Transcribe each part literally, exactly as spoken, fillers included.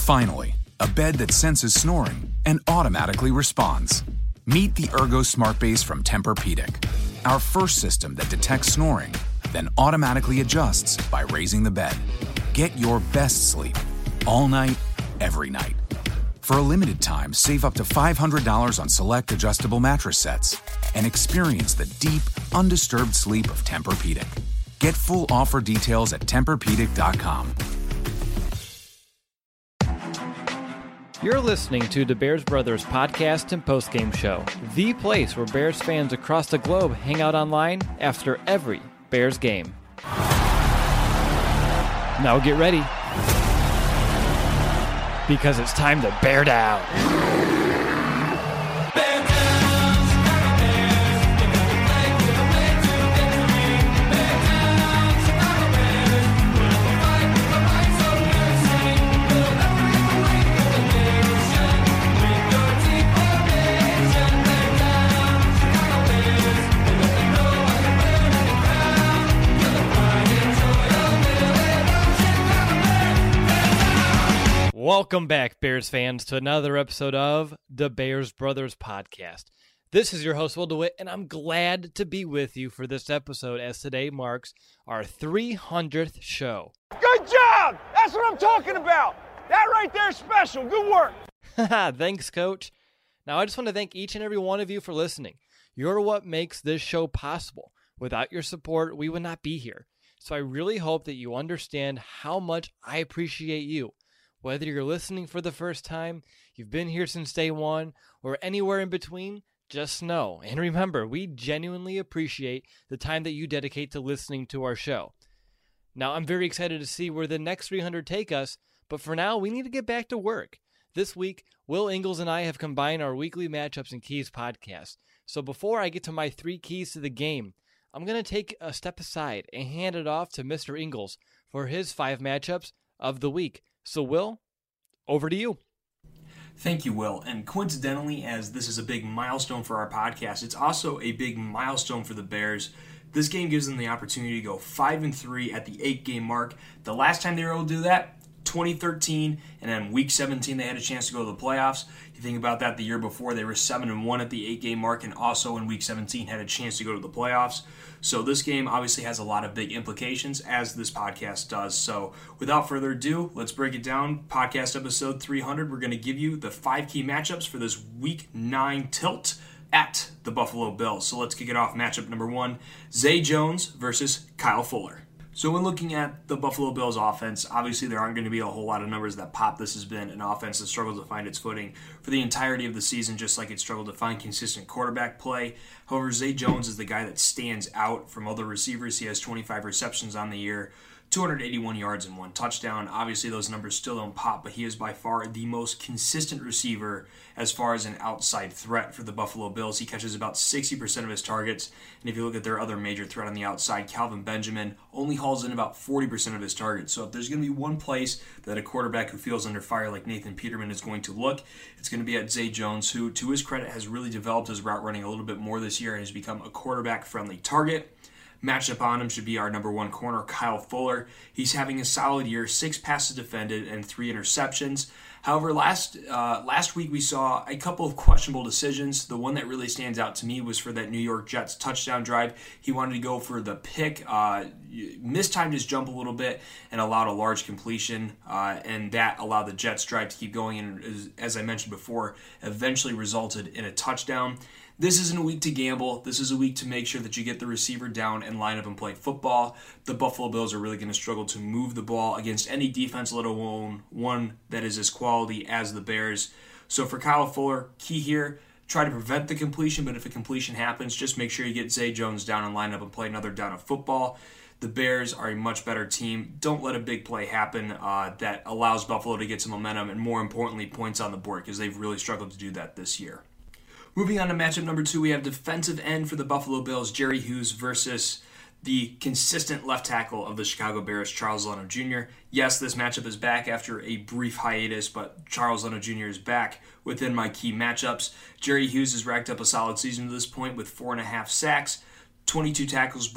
Finally, a bed that senses snoring and automatically responds. Meet the Ergo Smart Base from Tempur-Pedic, our first system that detects snoring, then automatically adjusts by raising the bed. Get your best sleep all night, every night. For a limited time, save up to five hundred dollars on select adjustable mattress sets and experience the deep, undisturbed sleep of Tempur-Pedic. Get full offer details at Tempur Pedic dot com. You're listening to the Bears Brothers podcast and postgame show, the place where Bears fans across the globe hang out online after every Bears game. Now get ready, because it's time to bear down. Welcome back, Bears fans, to another episode of the Bears Brothers podcast. This is your host, Will DeWitt, and I'm glad to be with you for this episode, as today marks our three hundredth show. Good job! That's what I'm talking about! That right there is special. Good work! Thanks, Coach. Now, I just want to thank each and every one of you for listening. You're what makes this show possible. Without your support, we would not be here. So I really hope that you understand how much I appreciate you. Whether you're listening for the first time, you've been here since day one, or anywhere in between, just know. And remember, we genuinely appreciate the time that you dedicate to listening to our show. Now, I'm very excited to see where the next three hundred take us, but for now, we need to get back to work. This week, Will Ingalls and I have combined our weekly Matchups and Keys podcast. So before I get to my three keys to the game, I'm going to take a step aside and hand it off to Mister Ingalls for his five matchups of the week. So, Will, over to you. Thank you, Will. And coincidentally, as this is a big milestone for our podcast, it's also a big milestone for the Bears. This game gives them the opportunity to go five and three at the eight-game mark. The last time they were able to do that, twenty thirteen, and then week seventeen, they had a chance to go to the playoffs. You think about that, the year before, they were seven and one at the eight-game mark, and also in week seventeen had a chance to go to the playoffs. So this game obviously has a lot of big implications, as this podcast does. So without further ado, let's break it down. Podcast episode three hundred, we're going to give you the five key matchups for this week nine tilt at the Buffalo Bills. So let's kick it off. Matchup number one, Zay Jones versus Kyle Fuller. So when looking at the Buffalo Bills offense, obviously there aren't going to be a whole lot of numbers that pop. This has been an offense that struggled to find its footing for the entirety of the season, just like it struggled to find consistent quarterback play. However, Zay Jones is the guy that stands out from other receivers. He has twenty-five receptions on the year, two hundred eighty-one yards and one touchdown. Obviously, those numbers still don't pop, but he is by far the most consistent receiver as far as an outside threat for the Buffalo Bills. He catches about sixty percent of his targets, and if you look at their other major threat on the outside, Calvin Benjamin, only hauls in about forty percent of his targets. So if there's going to be one place that a quarterback who feels under fire like Nathan Peterman is going to look, it's going to be at Zay Jones, who, to his credit, has really developed his route running a little bit more this year and has become a quarterback-friendly target. Matched up on him should be our number one corner, Kyle Fuller. He's having a solid year, six passes defended and three interceptions. However, last uh, last week we saw a couple of questionable decisions. The one that really stands out to me was for that New York Jets touchdown drive. He wanted to go for the pick, uh, mistimed his jump a little bit, and allowed a large completion, uh, and that allowed the Jets drive to keep going, and as, as I mentioned before, eventually resulted in a touchdown. This isn't a week to gamble. This is a week to make sure that you get the receiver down and line up and play football. The Buffalo Bills are really going to struggle to move the ball against any defense, let alone one that is as quality as the Bears. So for Kyle Fuller, key here, try to prevent the completion, but if a completion happens, just make sure you get Zay Jones down and line up and play another down of football. The Bears are a much better team. Don't let a big play happen uh, that allows Buffalo to get some momentum and, more importantly, points on the board, because they've really struggled to do that this year. Moving on to matchup number two, we have defensive end for the Buffalo Bills, Jerry Hughes versus the consistent left tackle of the Chicago Bears, Charles Leno Junior Yes, this matchup is back after a brief hiatus, but Charles Leno Junior is back within my key matchups. Jerry Hughes has racked up a solid season to this point with four and a half sacks, twenty-two tackles, but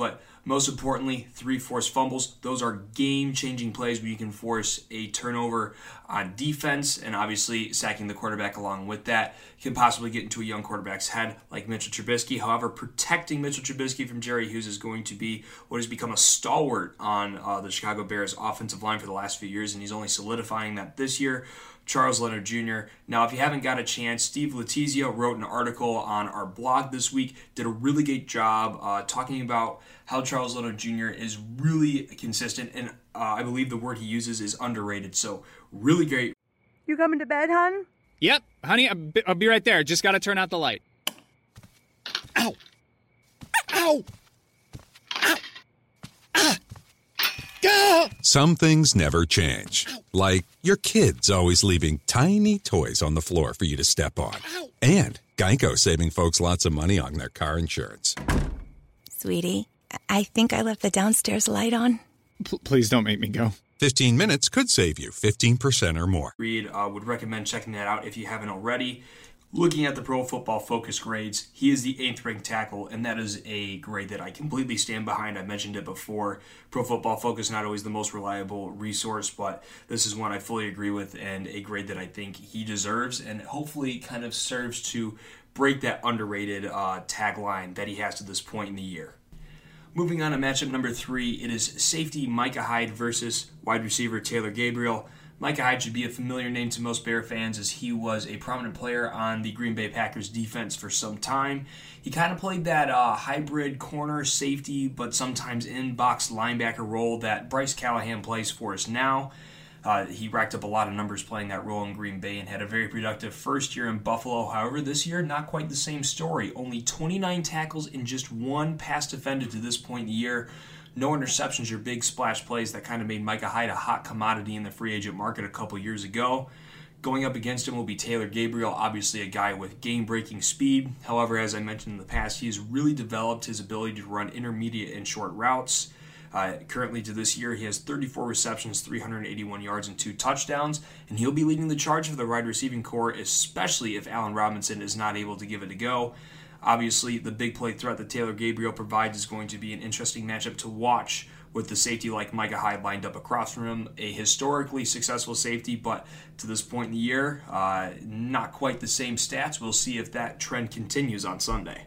Most importantly, three forced fumbles. Those are game-changing plays where you can force a turnover on defense, and obviously sacking the quarterback along with that can possibly get into a young quarterback's head like Mitchell Trubisky. However, protecting Mitchell Trubisky from Jerry Hughes is going to be what has become a stalwart on uh, the Chicago Bears offensive line for the last few years, and he's only solidifying that this year. Charles Leonard Junior Now, if you haven't got a chance, Steve Letizia wrote an article on our blog this week, did a really great job uh, talking about how Charles Leonard Junior is really consistent, and uh, I believe the word he uses is underrated. So, really great. You coming to bed, hon? Yep, honey, I'll be, I'll be right there. Just got to turn out the light. Ow! Ow! Ow! Ah! Gah! Some things never change. Like your kids always leaving tiny toys on the floor for you to step on. Ow! And Geico saving folks lots of money on their car insurance. Sweetie, I think I left the downstairs light on. P- please don't make me go. fifteen minutes could save you fifteen percent or more. Reed uh, would recommend checking that out if you haven't already. Looking at the Pro Football Focus grades, he is the eighth ranked tackle, and that is a grade that I completely stand behind. I mentioned it before. Pro Football Focus, not always the most reliable resource, but this is one I fully agree with and a grade that I think he deserves, and hopefully kind of serves to break that underrated uh, tagline that he has to this point in the year. Moving on to matchup number three, it is safety Micah Hyde versus wide receiver Taylor Gabriel. Micah Hyde should be a familiar name to most Bear fans as he was a prominent player on the Green Bay Packers defense for some time. He kind of played that uh, hybrid corner safety, but sometimes in-box linebacker role that Bryce Callahan plays for us now. Uh, he racked up a lot of numbers playing that role in Green Bay and had a very productive first year in Buffalo. However, this year, not quite the same story. Only twenty-nine tackles and just one pass defended to this point in the year. No interceptions or big splash plays that kind of made Micah Hyde a hot commodity in the free agent market a couple years ago. Going up against him will be Taylor Gabriel, obviously a guy with game-breaking speed. However, as I mentioned in the past, he has really developed his ability to run intermediate and short routes. Uh, currently to this year, he has thirty-four receptions, three hundred eighty-one yards, and two touchdowns, and he'll be leading the charge for the wide receiving core, especially if Allen Robinson is not able to give it a go. Obviously, the big play threat that Taylor Gabriel provides is going to be an interesting matchup to watch with the safety like Micah Hyde lined up across from him. A historically successful safety, but to this point in the year, uh, not quite the same stats. We'll see if that trend continues on Sunday.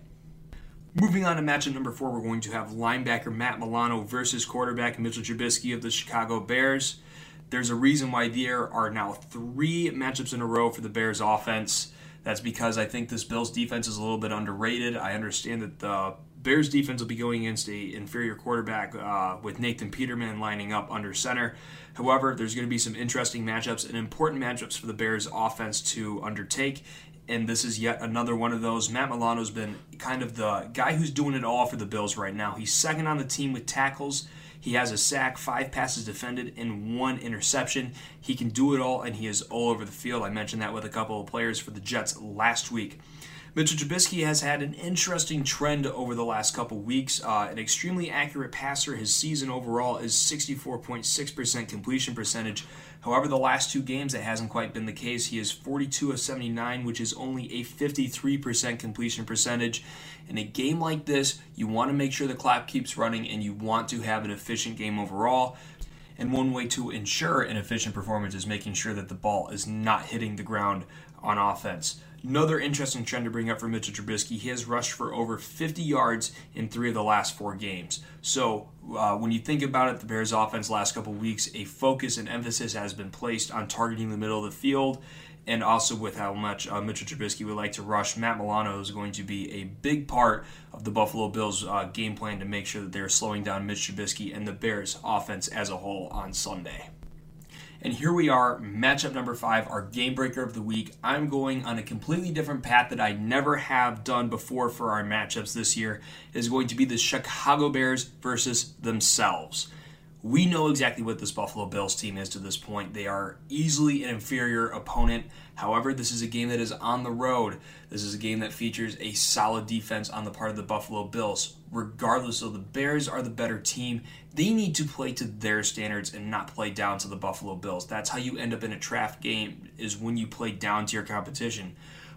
Moving on to matchup number four, we're going to have linebacker Matt Milano versus quarterback Mitchell Trubisky of the Chicago Bears. There's a reason why there are now three matchups in a row for the Bears offense. That's because I think this Bills defense is a little bit underrated. I understand that the Bears defense will be going against a inferior quarterback uh, with Nathan Peterman lining up under center. However, there's going to be some interesting matchups and important matchups for the Bears offense to undertake. And this is yet another one of those. Matt Milano's been kind of the guy who's doing it all for the Bills right now. He's second on the team with tackles. He has a sack, five passes defended, and one interception. He can do it all, and he is all over the field. I mentioned that with a couple of players for the Jets last week. Mitchell Trubisky has had an interesting trend over the last couple weeks. Uh, an extremely accurate passer. His season overall is sixty-four point six percent completion percentage. However, the last two games, that hasn't quite been the case. He is forty-two of seventy-nine, which is only a fifty-three percent completion percentage. In a game like this, you want to make sure the clock keeps running and you want to have an efficient game overall. And one way to ensure an efficient performance is making sure that the ball is not hitting the ground on offense. Another interesting trend to bring up for Mitchell Trubisky, he has rushed for over fifty yards in three of the last four games. So uh, when you think about it, the Bears offense last couple weeks, a focus and emphasis has been placed on targeting the middle of the field, and also with how much uh, Mitchell Trubisky would like to rush. Matt Milano is going to be a big part of the Buffalo Bills uh, game plan to make sure that they're slowing down Mitch Trubisky and the Bears offense as a whole on Sunday. And here we are, matchup number five, our game breaker of the week. I'm going on a completely different path that I never have done before for our matchups this year. It is going to be the Chicago Bears versus themselves. We know exactly what this Buffalo Bills team is to this point. They are easily an inferior opponent. However, this is a game that is on the road. This is a game that features a solid defense on the part of the Buffalo Bills. Regardless of the Bears are the better team, they need to play to their standards and not play down to the Buffalo Bills. That's how you end up in a trap game, is when you play down to your competition.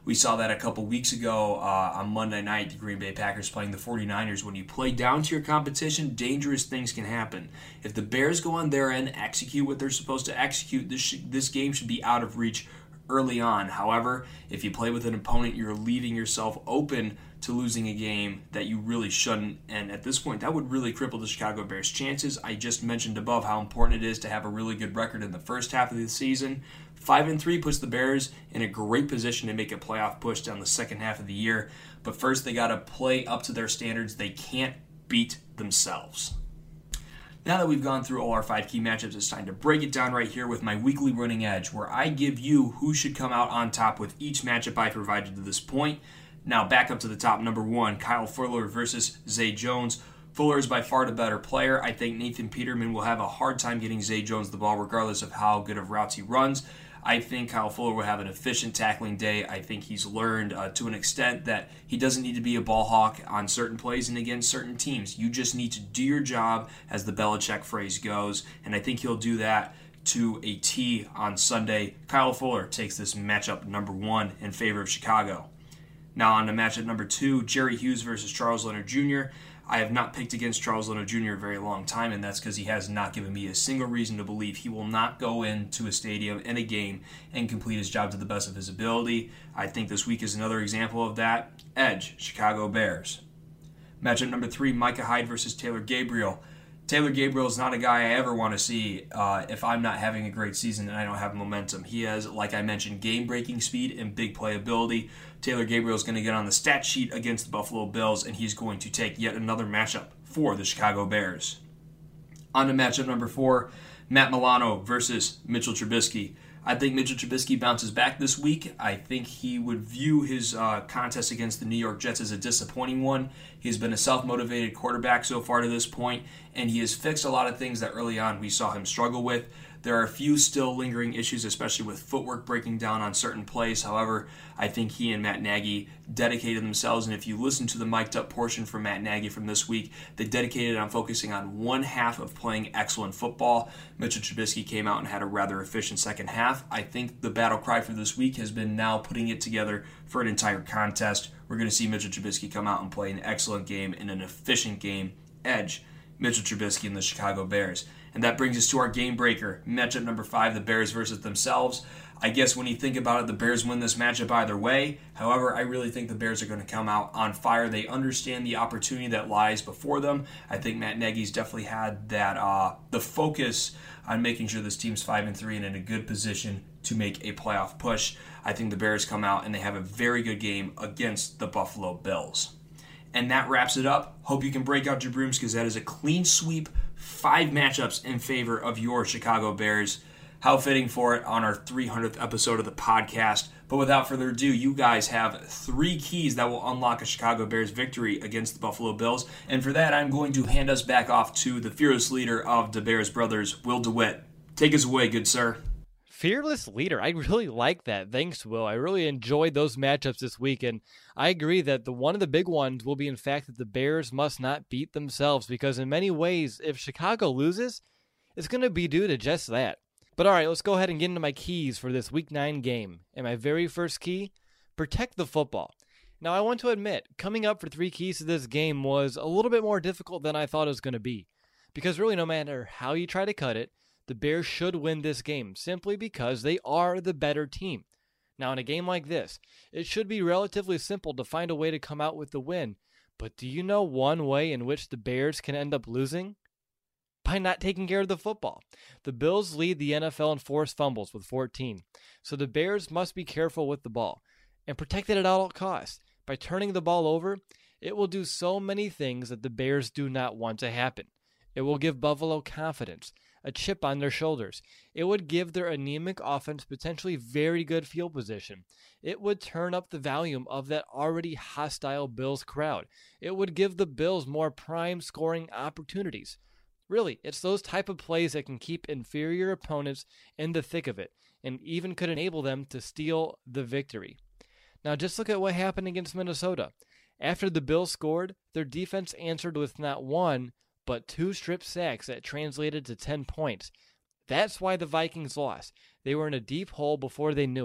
We saw that a couple weeks ago uh, on Monday night, the Green Bay Packers playing the 49ers. When you play down to your competition, dangerous things can happen. If the Bears go on their end, execute what they're supposed to execute, this, sh- this game should be out of reach early on. However, if you play with an opponent, you're leaving yourself open to losing a game that you really shouldn't. And at this point, that would really cripple the Chicago Bears' chances. I just mentioned above how important it is to have a really good record in the first half of the season. Five and three puts the Bears in a great position to make a playoff push down the second half of the year. But first, they got to play up to their standards. They can't beat themselves. Now that we've gone through all our five key matchups, it's time to break it down right here with my weekly running edge, where I give you who should come out on top with each matchup I provided to this point. Now back up to the top. Number one, Kyle Fuller versus Zay Jones. Fuller is by far the better player. I think Nathan Peterman will have a hard time getting Zay Jones the ball regardless of how good of routes he runs. I think Kyle Fuller will have an efficient tackling day. I think he's learned uh, to an extent that he doesn't need to be a ball hawk on certain plays and against certain teams. You just need to do your job, as the Belichick phrase goes, and I think he'll do that to a T on Sunday. Kyle Fuller takes this matchup number one in favor of Chicago. Now on to matchup number two, Jerry Hughes versus Charles Leonard Junior I have not picked against Charles Leonard Junior a very long time, and that's because he has not given me a single reason to believe he will not go into a stadium in a game and complete his job to the best of his ability. I think this week is another example of that. Edge, Chicago Bears. Matchup number three, Micah Hyde versus Taylor Gabriel. Taylor Gabriel is not a guy I ever want to see uh, if I'm not having a great season and I don't have momentum. He has, like I mentioned, game-breaking speed and big playability. Taylor Gabriel is going to get on the stat sheet against the Buffalo Bills, and he's going to take yet another matchup for the Chicago Bears. On to matchup number four, Matt Milano versus Mitchell Trubisky. I think Mitchell Trubisky bounces back this week. I think he would view his uh, contest against the New York Jets as a disappointing one. He's been a self-motivated quarterback so far to this point, and he has fixed a lot of things that early on we saw him struggle with. There are a few still lingering issues, especially with footwork breaking down on certain plays. However, I think he and Matt Nagy dedicated themselves, and if you listen to the mic'd up portion from Matt Nagy from this week, they dedicated on focusing on one half of playing excellent football. Mitchell Trubisky came out and had a rather efficient second half. I think the battle cry for this week has been now putting it together for an entire contest. We're going to see Mitchell Trubisky come out and play an excellent game in an efficient game. Edge, Mitchell Trubisky and the Chicago Bears. And that brings us to our game breaker, matchup number five, the Bears versus themselves. I guess when you think about it, the Bears win this matchup either way. However, I really think the Bears are going to come out on fire. They understand the opportunity that lies before them. I think Matt Nagy's definitely had that uh, the focus on making sure this team's five and three and in a good position to make a playoff push. I think the Bears come out and they have a very good game against the Buffalo Bills. And that wraps it up. Hope you can break out your brooms because that is a clean sweep. Five matchups in favor of your Chicago Bears. How fitting for it on our three hundredth episode of the podcast. But without further ado, you guys have three keys that will unlock a Chicago Bears victory against the Buffalo Bills. And for that, I'm going to hand us back off to the fearless leader of the Bears brothers, Will DeWitt. Take us away, good sir. Fearless leader. I really like that. Thanks, Will. I really enjoyed those matchups this week, and I agree that the one of the big ones will be, in fact, that the Bears must not beat themselves, because in many ways, if Chicago loses, it's going to be due to just that. But all right, let's go ahead and get into my keys for this Week nine game. And my very first key, protect the football. Now, I want to admit, coming up for three keys to this game was a little bit more difficult than I thought it was going to be, because really no matter how you try to cut it, the Bears should win this game simply because they are the better team. Now, in a game like this, it should be relatively simple to find a way to come out with the win. But do you know one way in which the Bears can end up losing? By not taking care of the football. The Bills lead the N F L in forced fumbles with fourteen. So the Bears must be careful with the ball and protect it at all costs. By turning the ball over, it will do so many things that the Bears do not want to happen. It will give Buffalo confidence, a chip on their shoulders. It would give their anemic offense potentially very good field position. It would turn up the volume of that already hostile Bills crowd. It would give the Bills more prime scoring opportunities. Really, it's those type of plays that can keep inferior opponents in the thick of it, and even could enable them to steal the victory. Now just look at what happened against Minnesota. After the Bills scored, their defense answered with not one, but two strip sacks that translated to ten points. That's why the Vikings lost. They were in a deep hole before they knew it.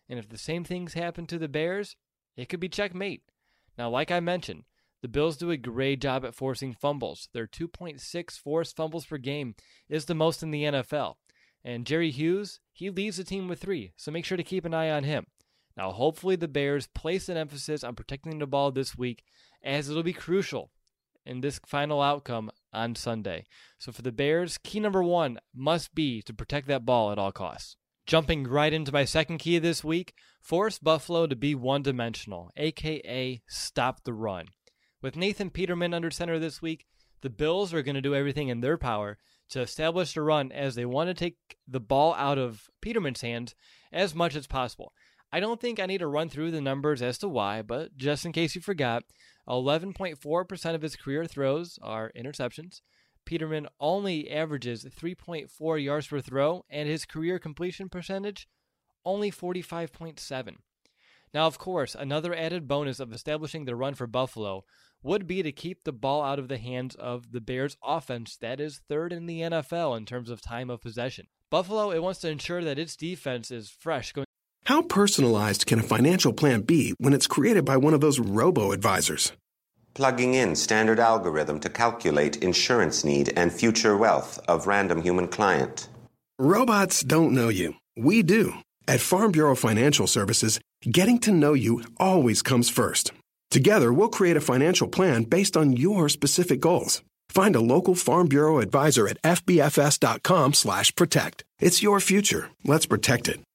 And if the same things happen to the Bears, it could be checkmate. Now, like I mentioned, the Bills do a great job at forcing fumbles. Their two point six forced fumbles per game is the most in the N F L. And Jerry Hughes, he leads the team with three, so make sure to keep an eye on him. Now, hopefully the Bears place an emphasis on protecting the ball this week, as it'll be crucial in this final outcome on Sunday. So for the Bears, key number one must be to protect that ball at all costs. Jumping right into my second key this week, force Buffalo to be one-dimensional, aka stop the run. With Nathan Peterman under center this week, the Bills are going to do everything in their power to establish the run, as they want to take the ball out of Peterman's hands as much as possible. I don't think I need to run through the numbers as to why, but just in case you forgot, eleven point four percent of his career throws are interceptions. Peterman only averages three point four yards per throw, and his career completion percentage, only forty-five point seven. Now, of course, another added bonus of establishing the run for Buffalo would be to keep the ball out of the hands of the Bears' offense that is third in the N F L in terms of time of possession. Buffalo, it wants to ensure that its defense is fresh going. How personalized can a financial plan be when it's created by one of those robo-advisors? Plugging in standard algorithm to calculate insurance need and future wealth of random human client. Robots don't know you. We do. At Farm Bureau Financial Services, getting to know you always comes first. Together, we'll create a financial plan based on your specific goals. Find a local Farm Bureau advisor at f b f s dot com slash protect. It's your future. Let's protect it.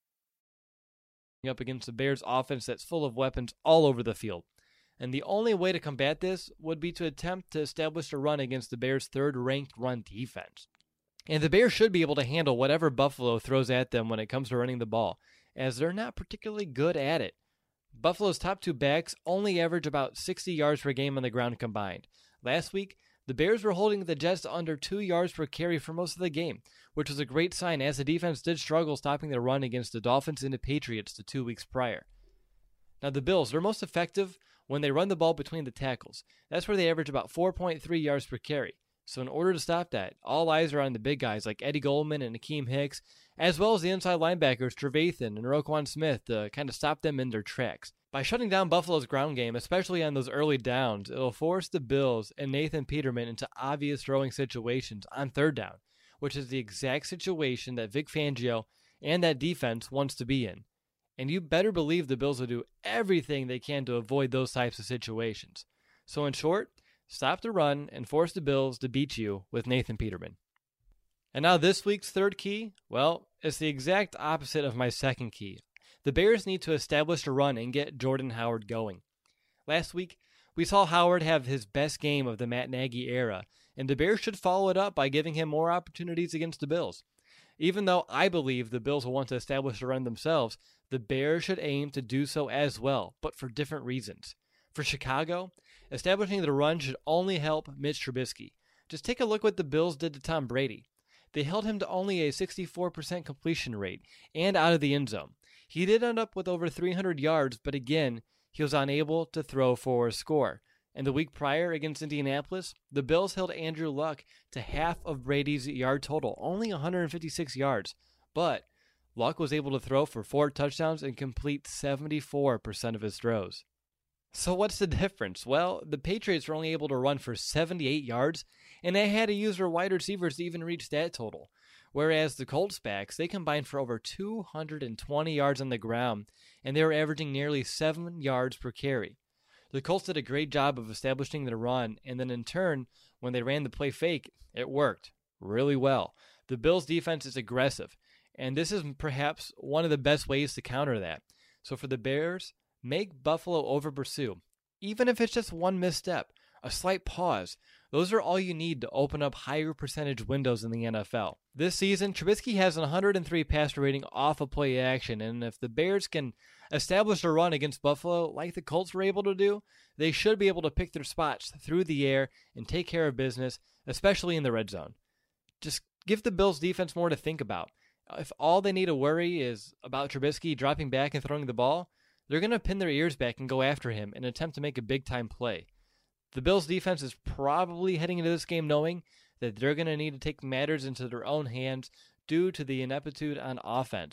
Up against the Bears offense that's full of weapons all over the field. And the only way to combat this would be to attempt to establish a run against the Bears' third-ranked run defense. And the Bears should be able to handle whatever Buffalo throws at them when it comes to running the ball, as they're not particularly good at it. Buffalo's top two backs only average about sixty yards per game on the ground combined. Last week, the Bears were holding the Jets to under two yards per carry for most of the game, which was a great sign, as the defense did struggle stopping the run against the Dolphins and the Patriots the two weeks prior. Now, the Bills, they're most effective when they run the ball between the tackles. That's where they average about four point three yards per carry. So in order to stop that, all eyes are on the big guys like Eddie Goldman and Akeem Hicks, as well as the inside linebackers Trevathan and Roquan Smith to kind of stop them in their tracks. By shutting down Buffalo's ground game, especially on those early downs, it'll force the Bills and Nathan Peterman into obvious throwing situations on third down, which is the exact situation that Vic Fangio and that defense wants to be in. And you better believe the Bills will do everything they can to avoid those types of situations. So in short, stop the run and force the Bills to beat you with Nathan Peterman. And now this week's third key, well, it's the exact opposite of my second key. The Bears need to establish a run and get Jordan Howard going. Last week, we saw Howard have his best game of the Matt Nagy era, and the Bears should follow it up by giving him more opportunities against the Bills. Even though I believe the Bills will want to establish a run themselves, the Bears should aim to do so as well, but for different reasons. For Chicago, establishing the run should only help Mitch Trubisky. Just take a look what the Bills did to Tom Brady. They held him to only a sixty-four percent completion rate and out of the end zone. He did end up with over three hundred yards, but again, he was unable to throw for a score. And the week prior against Indianapolis, the Bills held Andrew Luck to half of Brady's yard total, only one hundred fifty-six yards. But Luck was able to throw for four touchdowns and complete seventy-four percent of his throws. So what's the difference? Well, the Patriots were only able to run for seventy-eight yards, and they had to use their wide receivers to even reach that total. Whereas the Colts backs, they combined for over two hundred twenty yards on the ground, and they were averaging nearly seven yards per carry. The Colts did a great job of establishing the run, and then in turn, when they ran the play fake, it worked really well. The Bills' defense is aggressive, and this is perhaps one of the best ways to counter that. So for the Bears, make Buffalo over-pursue, even if it's just one misstep, a slight pause. Those are all you need to open up higher percentage windows in the N F L. This season, Trubisky has an one hundred three passer rating off of play action, and if the Bears can establish a run against Buffalo like the Colts were able to do, they should be able to pick their spots through the air and take care of business, especially in the red zone. Just give the Bills' defense more to think about. If all they need to worry is about Trubisky dropping back and throwing the ball, they're going to pin their ears back and go after him and attempt to make a big-time play. The Bills' defense is probably heading into this game knowing that they're going to need to take matters into their own hands due to the ineptitude on offense.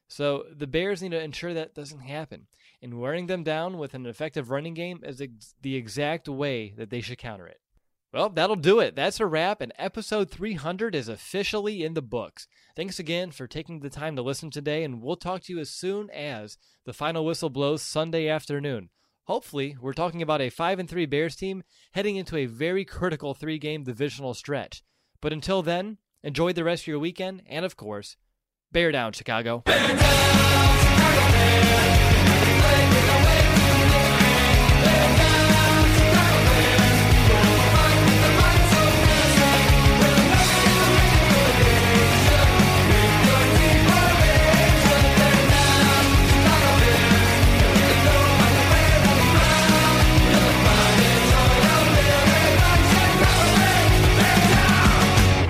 So the Bears need to ensure that doesn't happen. And wearing them down with an effective running game is ex- the exact way that they should counter it. Well, that'll do it. That's a wrap, and episode three hundred is officially in the books. Thanks again for taking the time to listen today, and we'll talk to you as soon as the final whistle blows Sunday afternoon. Hopefully, we're talking about a five and three Bears team heading into a very critical three-game divisional stretch. But until then, enjoy the rest of your weekend, and of course, bear down, Chicago. Bear down, Chicago Bears. Play with the way to win. Bear down, Chicago Bears. We'll fight with the might so fierce. We'll never get away from with your team formation. Bear down, Chicago Bears. We go on the way of the ground. We'll find it all out there. Bear down, Chicago Bears. Bear down.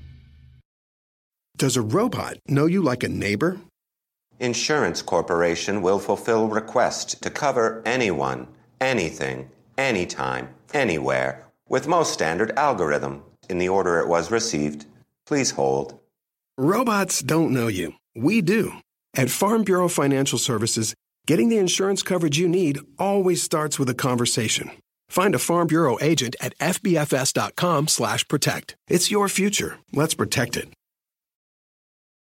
Does a robot know you like a neighbor? Insurance Corporation will fulfill requests to cover anyone, anything, anytime, anywhere, with most standard algorithm in the order it was received. Please hold. Robots don't know you. We do. At Farm Bureau Financial Services, getting the insurance coverage you need always starts with a conversation. Find a Farm Bureau agent at F B F S dot com slash protect. It's your future. Let's protect it.